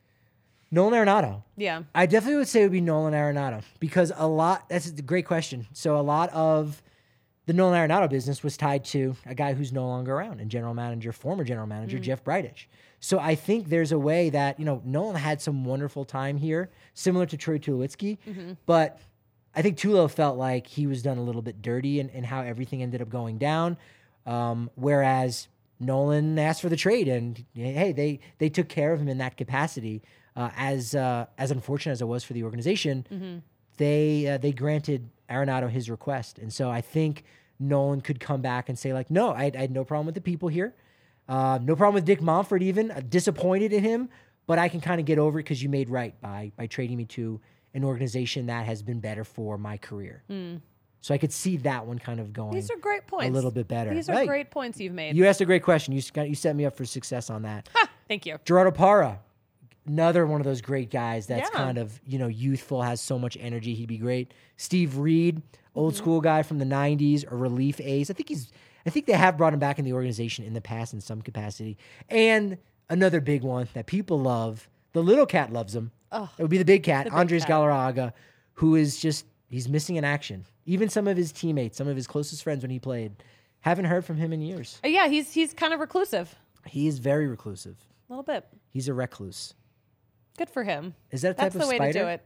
Nolan Arenado. Yeah. I definitely would say it would be Nolan Arenado because a lot, that's a great question. So a lot of the Nolan Arenado business was tied to a guy who's no longer around and general manager, former general manager, Jeff Bridich. So I think there's a way that, you know, Nolan had some wonderful time here, similar to Troy Tulowitzki, but I think Tulo felt like he was done a little bit dirty in, in how everything ended up going down. Um, whereas Nolan asked for the trade and hey, they, they took care of him in that capacity. Uh, as uh, as unfortunate as it was for the organization, they uh, they granted Arenado his request, and so I think Nolan could come back and say like, no, I, I had no problem with the people here, uh, no problem with Dick Monfort even, uh, disappointed in him, but I can kind of get over it because you made right by by trading me to an organization that has been better for my career. So I could see that one kind of going These are great points. a little bit better. These are Right. great points you've made. You asked a great question. You got you set me up for success on that. Ha! Thank you. Gerardo Parra, another one of those great guys that's Yeah. kind of, you know, youthful, has so much energy. He'd be great. Steve Reed, old school guy from the nineties, a relief ace. I think he's I think they have brought him back in the organization in the past in some capacity. And another big one that people love, the little cat loves him. Oh, It would be the big cat, big Andres cat. Galarraga, who is just he's missing in action. Even some of his teammates, some of his closest friends when he played, haven't heard from him in years. Uh, yeah, he's he's kind of reclusive. He is very reclusive. A little bit. He's a recluse. Good for him. Is that a type That's of the way spider? to do it.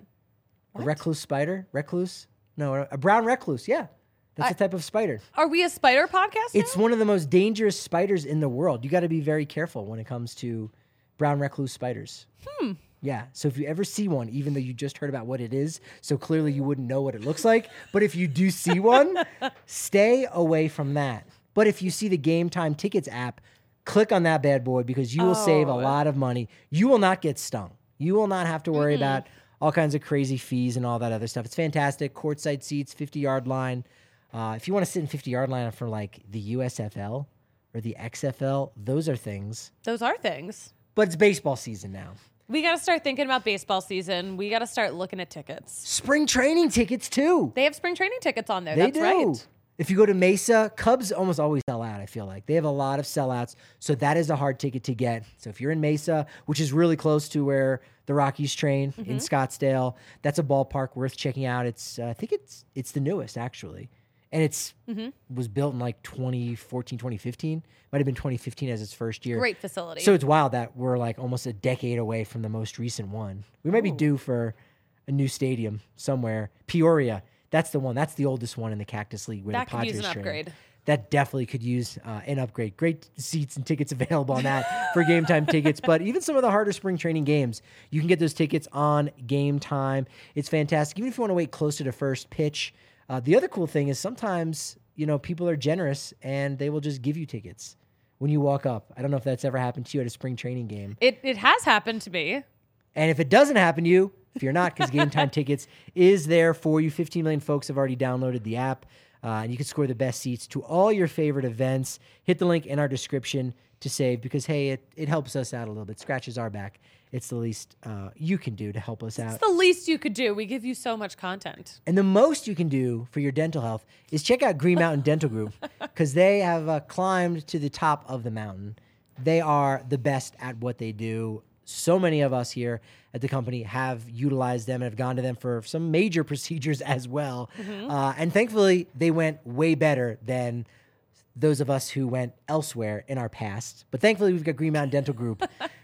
A recluse spider? Recluse? No, a- a brown recluse. Yeah. That's I- a type of spider. Are we a spider podcast? It's now? one of the most dangerous spiders in the world. You got to be very careful when it comes to brown recluse spiders. Hmm. Yeah. So if you ever see one, even though you just heard about what it is, so clearly you wouldn't know what it looks like, but if you do see one, stay away from that. But if you see the Game Time Tickets app, click on that bad boy because you will save a Oh. lot of money. You will not get stung. You will not have to worry about all kinds of crazy fees and all that other stuff. It's fantastic. Courtside seats, fifty-yard line. Uh, if you want to sit in fifty-yard line for like the U S F L or the X F L, those are things. Those are things. But it's baseball season now. We got to start thinking about baseball season. We got to start looking at tickets. Spring training tickets too. They have spring training tickets on there. They That's do. right. If you go to Mesa, Cubs almost always sell out, I feel like. They have a lot of sellouts, so that is a hard ticket to get. So if you're in Mesa, which is really close to where the Rockies train in Scottsdale, that's a ballpark worth checking out. It's uh, I think it's it's the newest, actually. And it's was built in like twenty fourteen, twenty fifteen. Might have been twenty fifteen as its first year. Great facility. So it's wild that we're like almost a decade away from the most recent one. We might be due for a new stadium somewhere. Peoria, that's the one. That's the oldest one in the Cactus League where That the could Padres use an train. upgrade. That definitely could use uh, an upgrade. Great seats and tickets available on that for Game Time tickets. But even some of the harder spring training games, you can get those tickets on Game Time. It's fantastic. Even if you want to wait closer to first pitch. Uh, the other cool thing is sometimes, you know, people are generous and they will just give you tickets when you walk up. I don't know if that's ever happened to you at a spring training game. It it has happened to me. And if it doesn't happen to you, if you're not, because Game Time Tickets is there for you. fifteen million folks have already downloaded the app, uh, and you can score the best seats to all your favorite events. Hit the link in our description to save because, hey, it, it helps us out a little bit, scratches our back. It's the least uh, you can do to help us out. It's the least you could do. We give you so much content. And the most you can do for your dental health is check out Green Mountain Dental Group because they have uh, climbed to the top of the mountain. They are the best at what they do. So many of us here at the company have utilized them and have gone to them for some major procedures as well. Uh, and thankfully, they went way better than those of us who went elsewhere in our past. But thankfully, we've got Green Mountain Dental Group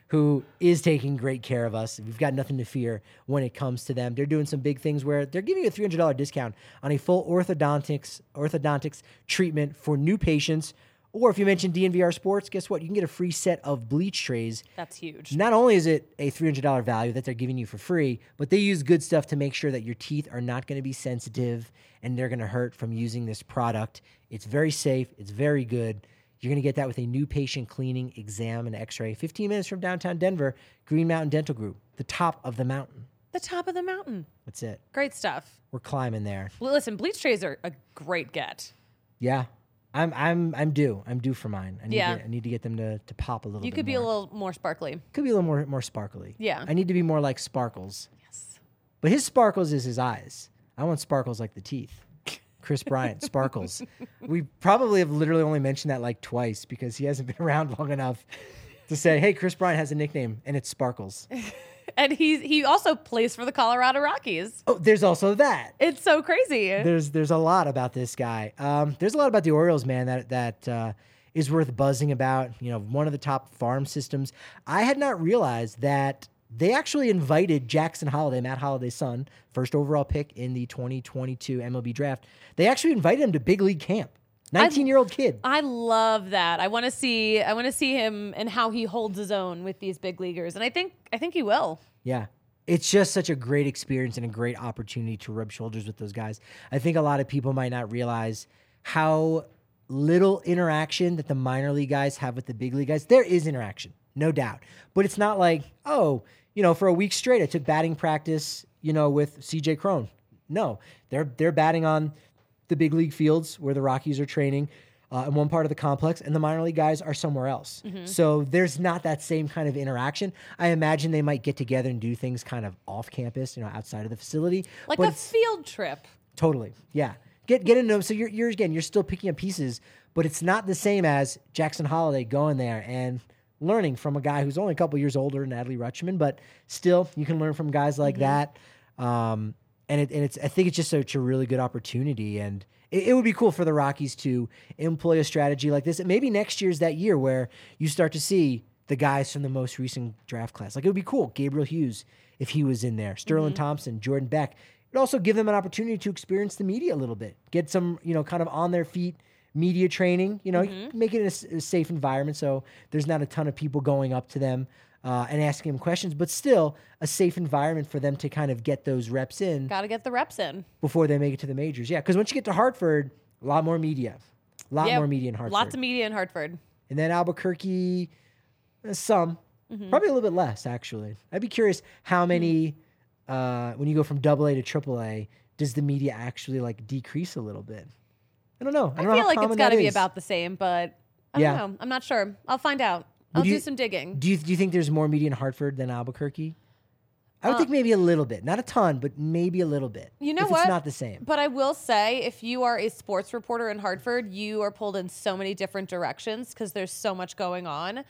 who is taking great care of us. We've got nothing to fear when it comes to them. They're doing some big things where they're giving you a three hundred dollars discount on a full orthodontics orthodontics treatment for new patients. Or if you mention D N V R Sports, guess what? You can get a free set of bleach trays. That's huge. Not only is it a three hundred dollars value that they're giving you for free, but they use good stuff to make sure that your teeth are not going to be sensitive and they're going to hurt from using this product. It's very safe. It's very good. You're going to get that with a new patient cleaning, exam, and x-ray. fifteen minutes from downtown Denver, Green Mountain Dental Group, the top of the mountain. The top of the mountain. That's it. Great stuff. We're climbing there. Well, listen, bleach trays are a great get. Yeah. I'm I'm I'm due. I'm due for mine. I need Yeah. to, I need to get them to, to pop a little You bit could be more. a little more sparkly. Could be a little more more sparkly. Yeah. I need to be more like Sparkles. Yes. But his sparkles is his eyes. I want sparkles like the teeth. Chris Bryant, Sparkles. We probably have literally only mentioned that like twice because he hasn't been around long enough to say, hey, Chris Bryant has a nickname and it's Sparkles. And he he also plays for the Colorado Rockies. Oh, there's also that. It's so crazy. There's there's a lot about this guy. Um, there's a lot about the Orioles, man, that that uh, is worth buzzing about. You know, one of the top farm systems. I had not realized that they actually invited Jackson Holliday, Matt Holliday's son, first overall pick in the twenty twenty-two M L B draft. They actually invited him to big league camp. nineteen-year-old kid. I love that. I want to see I want to see him and how he holds his own with these big leaguers. And I think I think he will. Yeah. It's just such a great experience and a great opportunity to rub shoulders with those guys. I think a lot of people might not realize how little interaction that the minor league guys have with the big league guys. There is interaction, no doubt. But it's not like, oh, you know, for a week straight, I took batting practice, you know, with C J Cron. No, they're they're batting on the big league fields where the Rockies are training uh, in one part of the complex, and the minor league guys are somewhere else. Mm-hmm. So there's not that same kind of interaction. I imagine they might get together and do things kind of off campus, you know, outside of the facility. Like but a field trip. Totally, yeah. Get get into them. So you're you're again, you're still picking up pieces, but it's not the same as Jackson Holliday going there and learning from a guy who's only a couple years older than Adley Rutschman, but still you can learn from guys like mm-hmm. that. Um, and it and it's I think it's just such a really good opportunity, and it, it would be cool for the Rockies to employ a strategy like this. And maybe next year's that year where you start to see the guys from the most recent draft class. Like it would be cool, Gabriel Hughes if he was in there, Sterling mm-hmm. Thompson, Jordan Beck. It would also give them an opportunity to experience the media a little bit, get some, you know, kind of on their feet media training, you know, mm-hmm. make it a, a safe environment so there's not a ton of people going up to them uh, and asking them questions, but still a safe environment for them to kind of get those reps in. Got to get the reps in. Before they make it to the majors. Yeah, because once you get to Hartford, a lot more media. A lot yeah, more media in Hartford. Lots of media in Hartford. And then Albuquerque, uh, some. Mm-hmm. Probably a little bit less, actually. I'd be curious how many, mm-hmm. uh, when you go from double A to triple A, does the media actually like decrease a little bit? I don't know. I, don't I feel know how like it's got to be is. about the same, but I yeah. don't know. I'm not sure. I'll find out. I'll you, do some digging. Do you do you think there's more media in Hartford than Albuquerque? I would uh, think maybe a little bit. Not a ton, but maybe a little bit. You know if what? It's not the same. But I will say, if you are a sports reporter in Hartford, you are pulled in so many different directions because there's so much going on.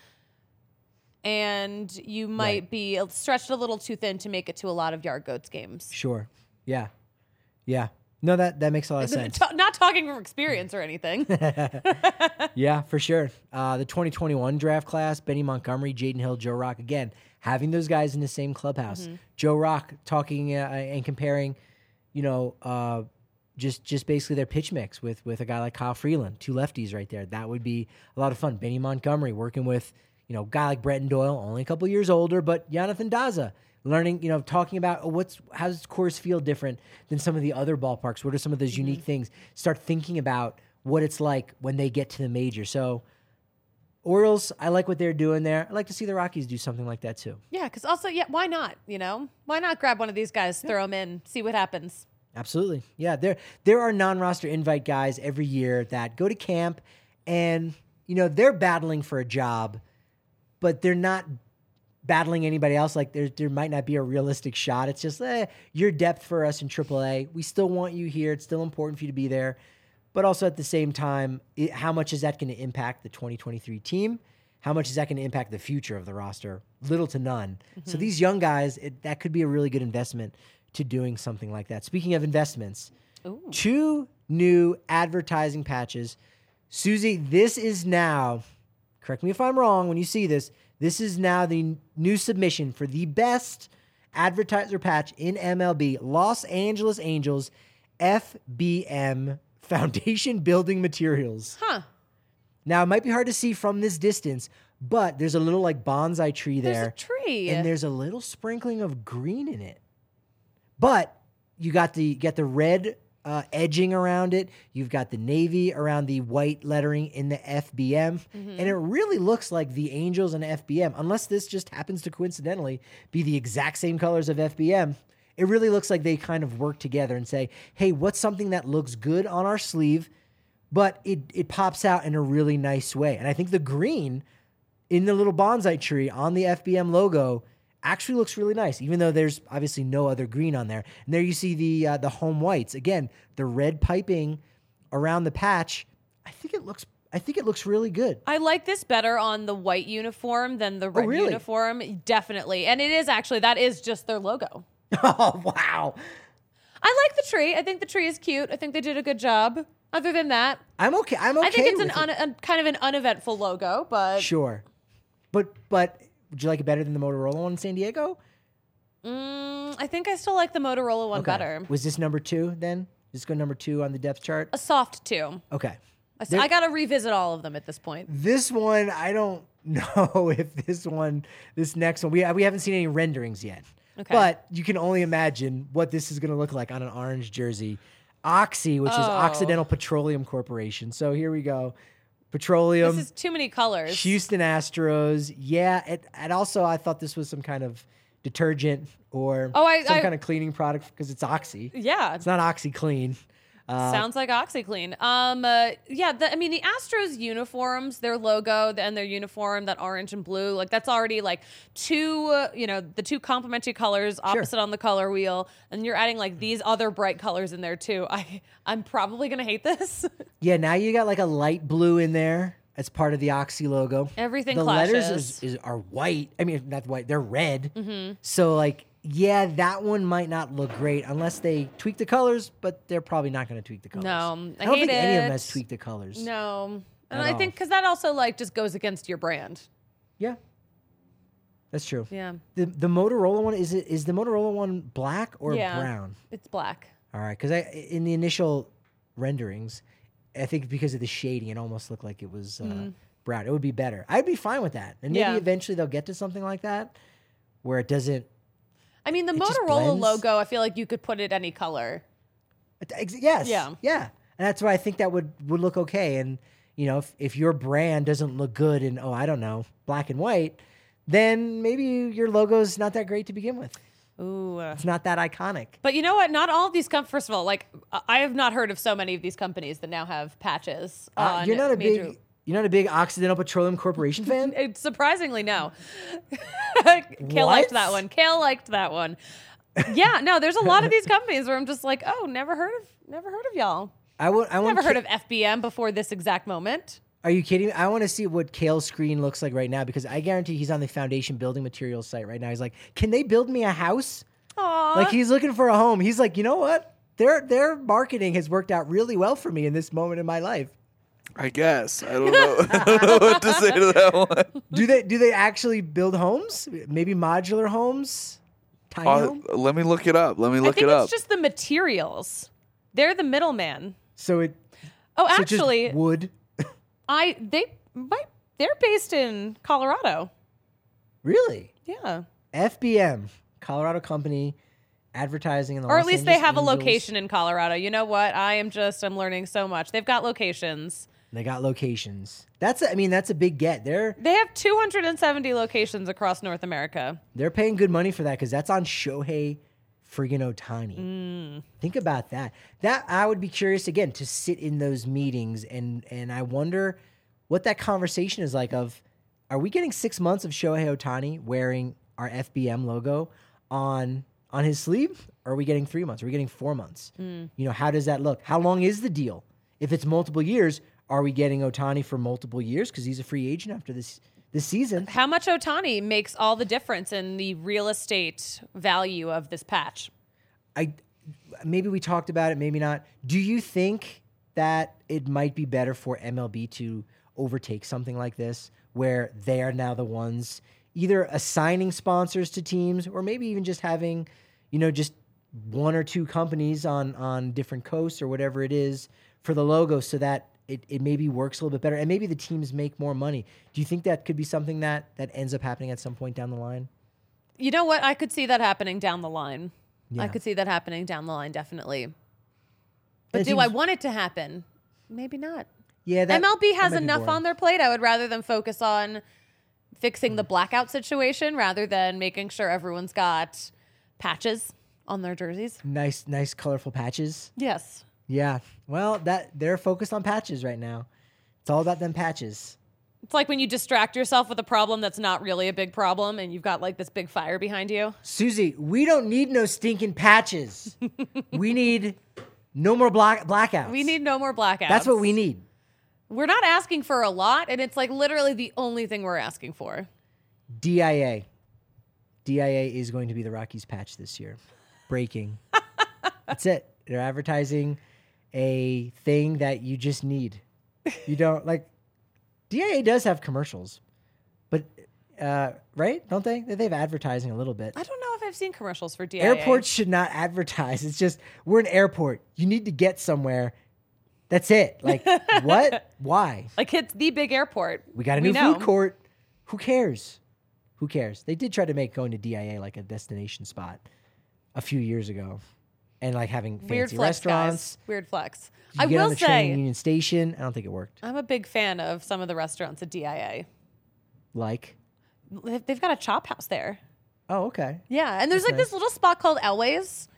And you might right. be stretched a little too thin to make it to a lot of Yard Goats games. Sure. Yeah. Yeah. No, that, that makes a lot of sense. Not talking from experience or anything. Yeah, for sure. Uh, the twenty twenty-one draft class, Benny Montgomery, Jaden Hill, Joe Rock. Again, having those guys in the same clubhouse. Mm-hmm. Joe Rock talking uh, and comparing, you know, uh, just just basically their pitch mix with, with a guy like Kyle Freeland, two lefties right there. That would be a lot of fun. Benny Montgomery working with, you know, a guy like Bretton Doyle, only a couple years older, but Jonathan Daza. Learning, you know, talking about what's how does Coors feel different than some of the other ballparks? What are some of those mm-hmm. unique things? Start thinking about what it's like when they get to the major. So, Orioles, I like what they're doing there. I'd like to see the Rockies do something like that too. Yeah, because also, yeah, why not? You know, why not grab one of these guys, yeah. throw them in, see what happens? Absolutely, yeah. There, there are non-roster invite guys every year that go to camp, and you know they're battling for a job, but they're not battling anybody else. Like there, there might not be a realistic shot. It's just, eh, your depth for us in triple A. We still want you here. It's still important for you to be there. But also at the same time, it, how much is that going to impact the twenty twenty-three team? How much is that going to impact the future of the roster? Little to none. Mm-hmm. So these young guys, it, that could be a really good investment to doing something like that. Speaking of investments, Ooh. two new advertising patches. Susie, this is now, correct me if I'm wrong when you see this, This is now the n- new submission for the best advertiser patch in M L B. Los Angeles Angels F B M Foundation Building Materials. Huh. Now, it might be hard to see from this distance, but there's a little like bonsai tree There's there. a tree. And there's a little sprinkling of green in it. But you got the get the red uh, edging around it. You've got the navy around the white lettering in the F B M. Mm-hmm. And it really looks like the Angels and F B M, unless this just happens to coincidentally be the exact same colors of F B M. It really looks like they kind of work together and say, hey, what's something that looks good on our sleeve, but it, it pops out in a really nice way. And I think the green in the little bonsai tree on the F B M logo actually looks really nice, even though there's obviously no other green on there. And there you see the uh, the home whites. Again, the red piping around the patch. I think it looks I think it looks really good. I like this better on the white uniform than the red really? uniform. Definitely. And it is actually, that is just their logo. Oh, wow. I like the tree. I think the tree is cute. I think they did a good job. Other than that, I'm okay. I'm okay I think it's an with un- it. un- kind of an uneventful logo, but Sure. But but would you like it better than the Motorola one in San Diego? mm, I think I still like the Motorola one Okay. better. Was this number two then? Just go number two on the depth chart? A soft two. Okay. I, s- There- I got to revisit all of them at this point. This one, I don't know if this one, this next one, we, we haven't seen any renderings yet. Okay. But you can only imagine what this is going to look like on an orange jersey. Oxy, which is Oh. Occidental Petroleum Corporation. So here we go. Petroleum, This is too many colors. Houston Astros. Yeah, it, and also I thought this was some kind of detergent or Oh, I- some I- kind of cleaning product because it's Oxy. Yeah. It's not OxyClean. Uh, Sounds like OxyClean. Um, uh, yeah, the, I mean, the Astros uniforms, their logo and their uniform, that orange and blue, like that's already like two, uh, you know, the two complementary colors opposite on the color wheel, and you're adding like these other bright colors in there too. I, I'm probably gonna hate this. Yeah, now you got like a light blue in there as part of the Oxy logo. Everything the clashes. letters is, is, are white. I mean, not white, they're red. Mm-hmm. So, like, yeah, that one might not look great unless they tweak the colors, but they're probably not going to tweak the colors. No, I I don't hate think any of them it. has tweaked the colors. No, and At I all. think because that also like just goes against your brand. Yeah, that's true. Yeah, The the Motorola one, is it is the Motorola one black or Yeah. brown? it's black. All right, because I in the initial renderings, I think because of the shading, it almost looked like it was uh, brown. It would be better. I'd be fine with that, and maybe Mm-hmm. Yeah. eventually they'll get to something like that where it doesn't. I mean, the It just Motorola blends. logo, I feel like you could put it any color. Ex- Yes. Yeah. Yeah, and that's why I think that would would look okay. And you know, if if your brand doesn't look good in oh I don't know black and white, then maybe your logo's not that great to begin with. Ooh. It's not that iconic. But you know what? Not all of these com- first of all, like I- I have not heard of so many of these companies that now have patches. Uh, on you're not a major- big you're not a big Occidental Petroleum Corporation fan. It's surprisingly no. Kale liked What? that one. Kale liked that one. Yeah, no, there's a lot of these companies where I'm just like, oh, never heard of, never heard of y'all. I would. I want. Never heard of F B M before this exact moment. Are you kidding me? I want to see what Kale's screen looks like right now because I guarantee he's on the Foundation Building Materials site right now. He's like, "Can they build me a house?" Aww. Like he's looking for a home. He's like, "You know what? Their their marketing has worked out really well for me in this moment in my life." I guess. I don't know. I don't know what to say to that one. Do they do they actually build homes? Maybe modular homes? Tiny Uh, home? let me look it up. Let me I look think it it's up. just the materials. They're the middleman. So it Oh, so just actually, wood. I they might they're based in Colorado. Really? Yeah. F B M, Colorado company, advertising in the Or Los at least they Angeles have a Angels. location in Colorado. You know what? I am just I'm learning so much. They've got locations. They got locations. That's a, I mean that's a big get. They're They have two hundred seventy locations across North America. They're paying good money for that because that's on Shohei friggin' Ohtani. Mm. Think about that. That I would be curious again to sit in those meetings and and I wonder what that conversation is like. Of are we getting six months of Shohei Ohtani wearing our F B M logo on on his sleeve? Or are we getting three months? Are we getting four months? Mm. You know, how does that look? How long is the deal? If it's multiple years, are we getting Ohtani for multiple years because he's a free agent after this this season? How much Ohtani makes all the difference in the real estate value of this patch? I maybe we talked about it, maybe not. Do you think that it might be better for M L B to overtake something like this, where they are now the ones either assigning sponsors to teams or maybe even just having, you know, just one or two companies on, on different coasts or whatever it is for the logo so that it, it maybe works a little bit better and maybe the teams make more money. Do you think that could be something that, that ends up happening at some point down the line? You know what? I could see that happening down the line. Yeah. I could see that happening down the line, definitely. But it do seems- I want it to happen? Maybe not. Yeah, that, M L B has that might be enough boring. on their plate. I would rather them focus on fixing the blackout situation rather than making sure everyone's got patches on their jerseys. Nice, nice, colorful patches. Yes. Yeah. Well, that they're focused on patches right now. It's all about them patches. It's like when you distract yourself with a problem that's not really a big problem and you've got like this big fire behind you. Susie, we don't need no stinking patches. We need no more black blackouts. We need no more blackouts. That's what we need. We're not asking for a lot, and it's like literally the only thing we're asking for. D I A. D I A is going to be the Rockies patch this year. Breaking. That's it. They're advertising a thing that you just need. You don't like. D I A does have commercials, but uh, right? Don't they? They have advertising a little bit. I don't know if I've seen commercials for D I A. Airports should not advertise. It's just we're an airport. You need to get somewhere. That's it. Like what? Why? Like it's the big airport. We got a We new know. food court. Who cares? Who cares? They did try to make going to D I A like a destination spot a few years ago, and like having fancy Weird flex, restaurants. guys. Weird flex. You I get on will the train in say, Union Station. I don't think it worked. I'm a big fan of some of the restaurants at D I A. Like, They've- They've got a chop house there. oh, okay. Yeah, and there's That's like this nice. little spot called Elway's.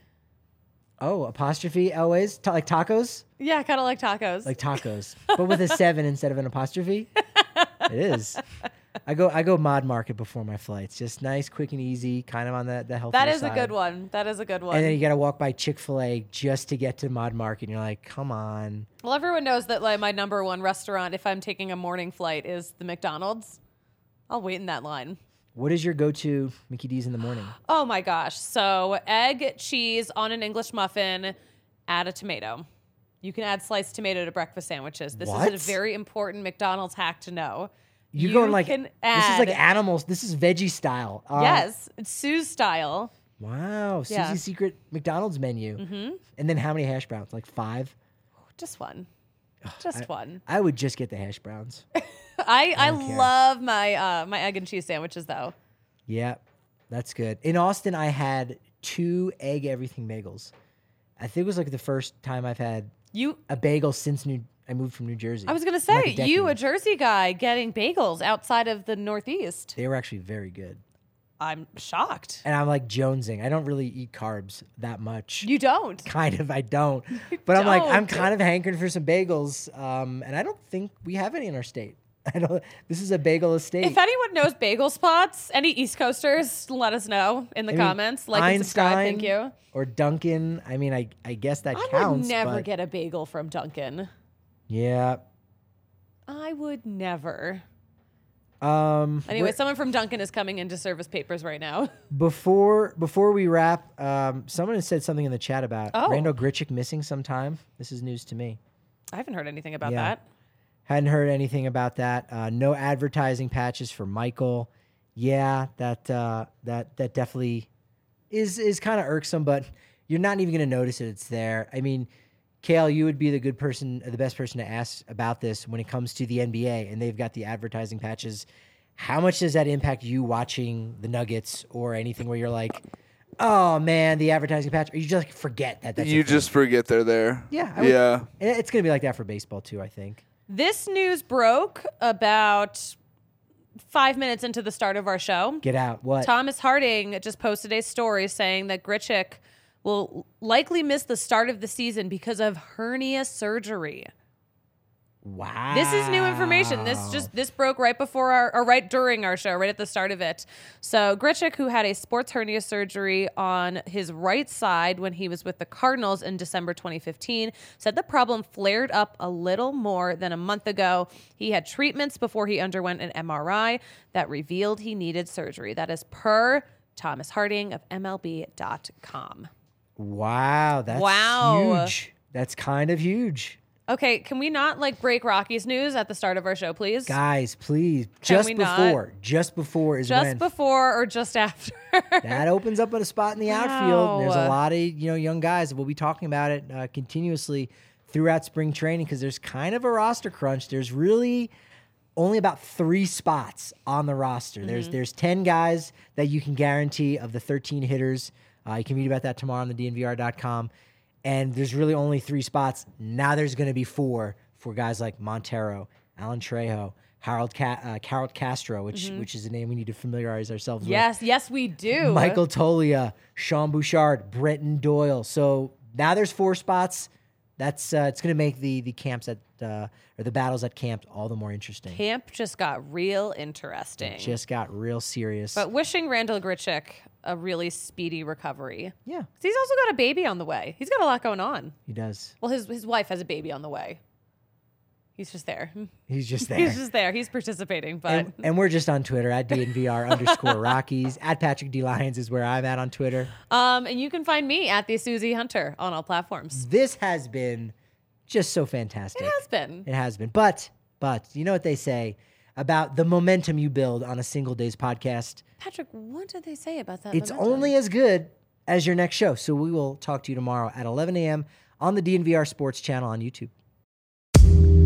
Oh, apostrophe always Ta- like tacos, Yeah, kind of like tacos. like tacos, but with a seven instead of an apostrophe. It is. I go I go Mod Market before my flights. Just nice, quick and easy, kind of on the the healthier that is side. a good one. That is a good one. And then you got to walk by Chick-fil-A just to get to Mod Market. And you're like, come on. well, everyone knows that like my number one restaurant, if I'm taking a morning flight, is the McDonald's. I'll wait in that line. What is your go-to Mickey D's in the morning? Oh my gosh. So egg, cheese on an English muffin, add a tomato. You can add sliced tomato to breakfast sandwiches. This What? is a very important McDonald's hack to know. You're You going like, can this is like add- animals. This is veggie style. Uh, Yes, it's Sue's style. Wow. Yeah. Susie's secret McDonald's menu. Mm-hmm. And then how many hash browns? Like five? Just one. Just one. I would just get the hash browns. I, I, don't care. love my uh, my egg and cheese sandwiches though. Yeah, that's good. In Austin, I had two egg everything bagels. I think it was like the first time I've had You a bagel since New I moved from New Jersey. I was gonna In say, like a you a decade. Jersey guy getting bagels outside of the Northeast. They were actually very good. I'm shocked. And I'm like jonesing. I don't really eat carbs that much. You don't. Kind of, I don't. But I'm like, I'm don't. kind of hankering for some bagels. Um, and I don't think we have any in our state. I don't. This is a bagel estate. If anyone knows bagel spots, any East Coasters, let us know in the I mean, comments. Like and subscribe, thank Einstein you. Or Dunkin'. I mean, I I guess that I counts. would never but get a bagel from Dunkin'. Yeah. I would never. Um. Anyway, we're- someone from Dunkin' is coming in to service papers right now. Before before we wrap, um, someone has said something in the chat about Oh. Randall Grichuk missing some time. This is news to me. I haven't heard anything about Yeah. that. Hadn't heard anything about that. Uh, no advertising patches for Michael. Yeah, that uh, that that definitely is is kind of irksome, but you're not even going to notice it. It's there. I mean, Kale, you would be the good person, the best person to ask about this when it comes to the N B A, and they've got the advertising patches. How much does that impact you watching the Nuggets or anything where you're like, oh man, the advertising patch, or you just like forget that that's a You thing? just forget they're there. Yeah, I would- yeah. And it's going to be like that for baseball too, I think. This news broke about five minutes into the start of our show. Get out. What? Thomas Harding just posted a story saying that Grichuk will likely miss the start of the season because of hernia surgery. Wow. This is new information. This just this broke right before our or right during our show, right at the start of it. So Grichuk, who had a sports hernia surgery on his right side when he was with the Cardinals in December twenty fifteen, said the problem flared up a little more than a month ago. He had treatments before he underwent an M R I that revealed he needed surgery. That is per Thomas Harding of M L B dot com. Wow, that's Wow. huge. That's kind of huge. Okay, can we not like break Rocky's news at the start of our show, please? Guys, please, Can just we before, not? just before is Just when before or just after? that opens up a spot in the outfield. There's a Wow. lot of you know young guys. We'll be talking about it uh, continuously throughout spring training because there's kind of a roster crunch. There's really only about three spots on the roster. There's Mm-hmm. there's ten guys that you can guarantee of the thirteen hitters. Uh, you can read about that tomorrow on the D N V R dot com. And there's really only three spots. Now there's going to be four for guys like Montero, Alan Trejo, Harold Ca- uh, Harold Castro, which which is a name we need to familiarize ourselves with. Yes, yes, we do. Michael Tolia, Sean Bouchard, Brenton Doyle. So now there's four spots. That's uh, it's going to make the the camps at uh, or the battles at camp all the more interesting. Camp just got real interesting. Just got real serious. But wishing Randall Grichuk a really speedy recovery. yeah, 'Cause he's also got a baby on the way. He's got a lot going on. he does. Well, his his wife has a baby on the way. He's just there. He's just there. He's just there. He's participating, but and, and we're just on Twitter at D N V R underscore Rockies. At Patrick D. Lyons is where I'm at on Twitter. um, and you can find me at the Susie Hunter on all platforms. This has been just so fantastic. It has been. It has been. But, but, you know what they say about the momentum you build on a single day's podcast? Patrick, what did they say about that? It's momentum? only as good as your next show. So we will talk to you tomorrow at eleven a.m. on the D N V R Sports channel on YouTube.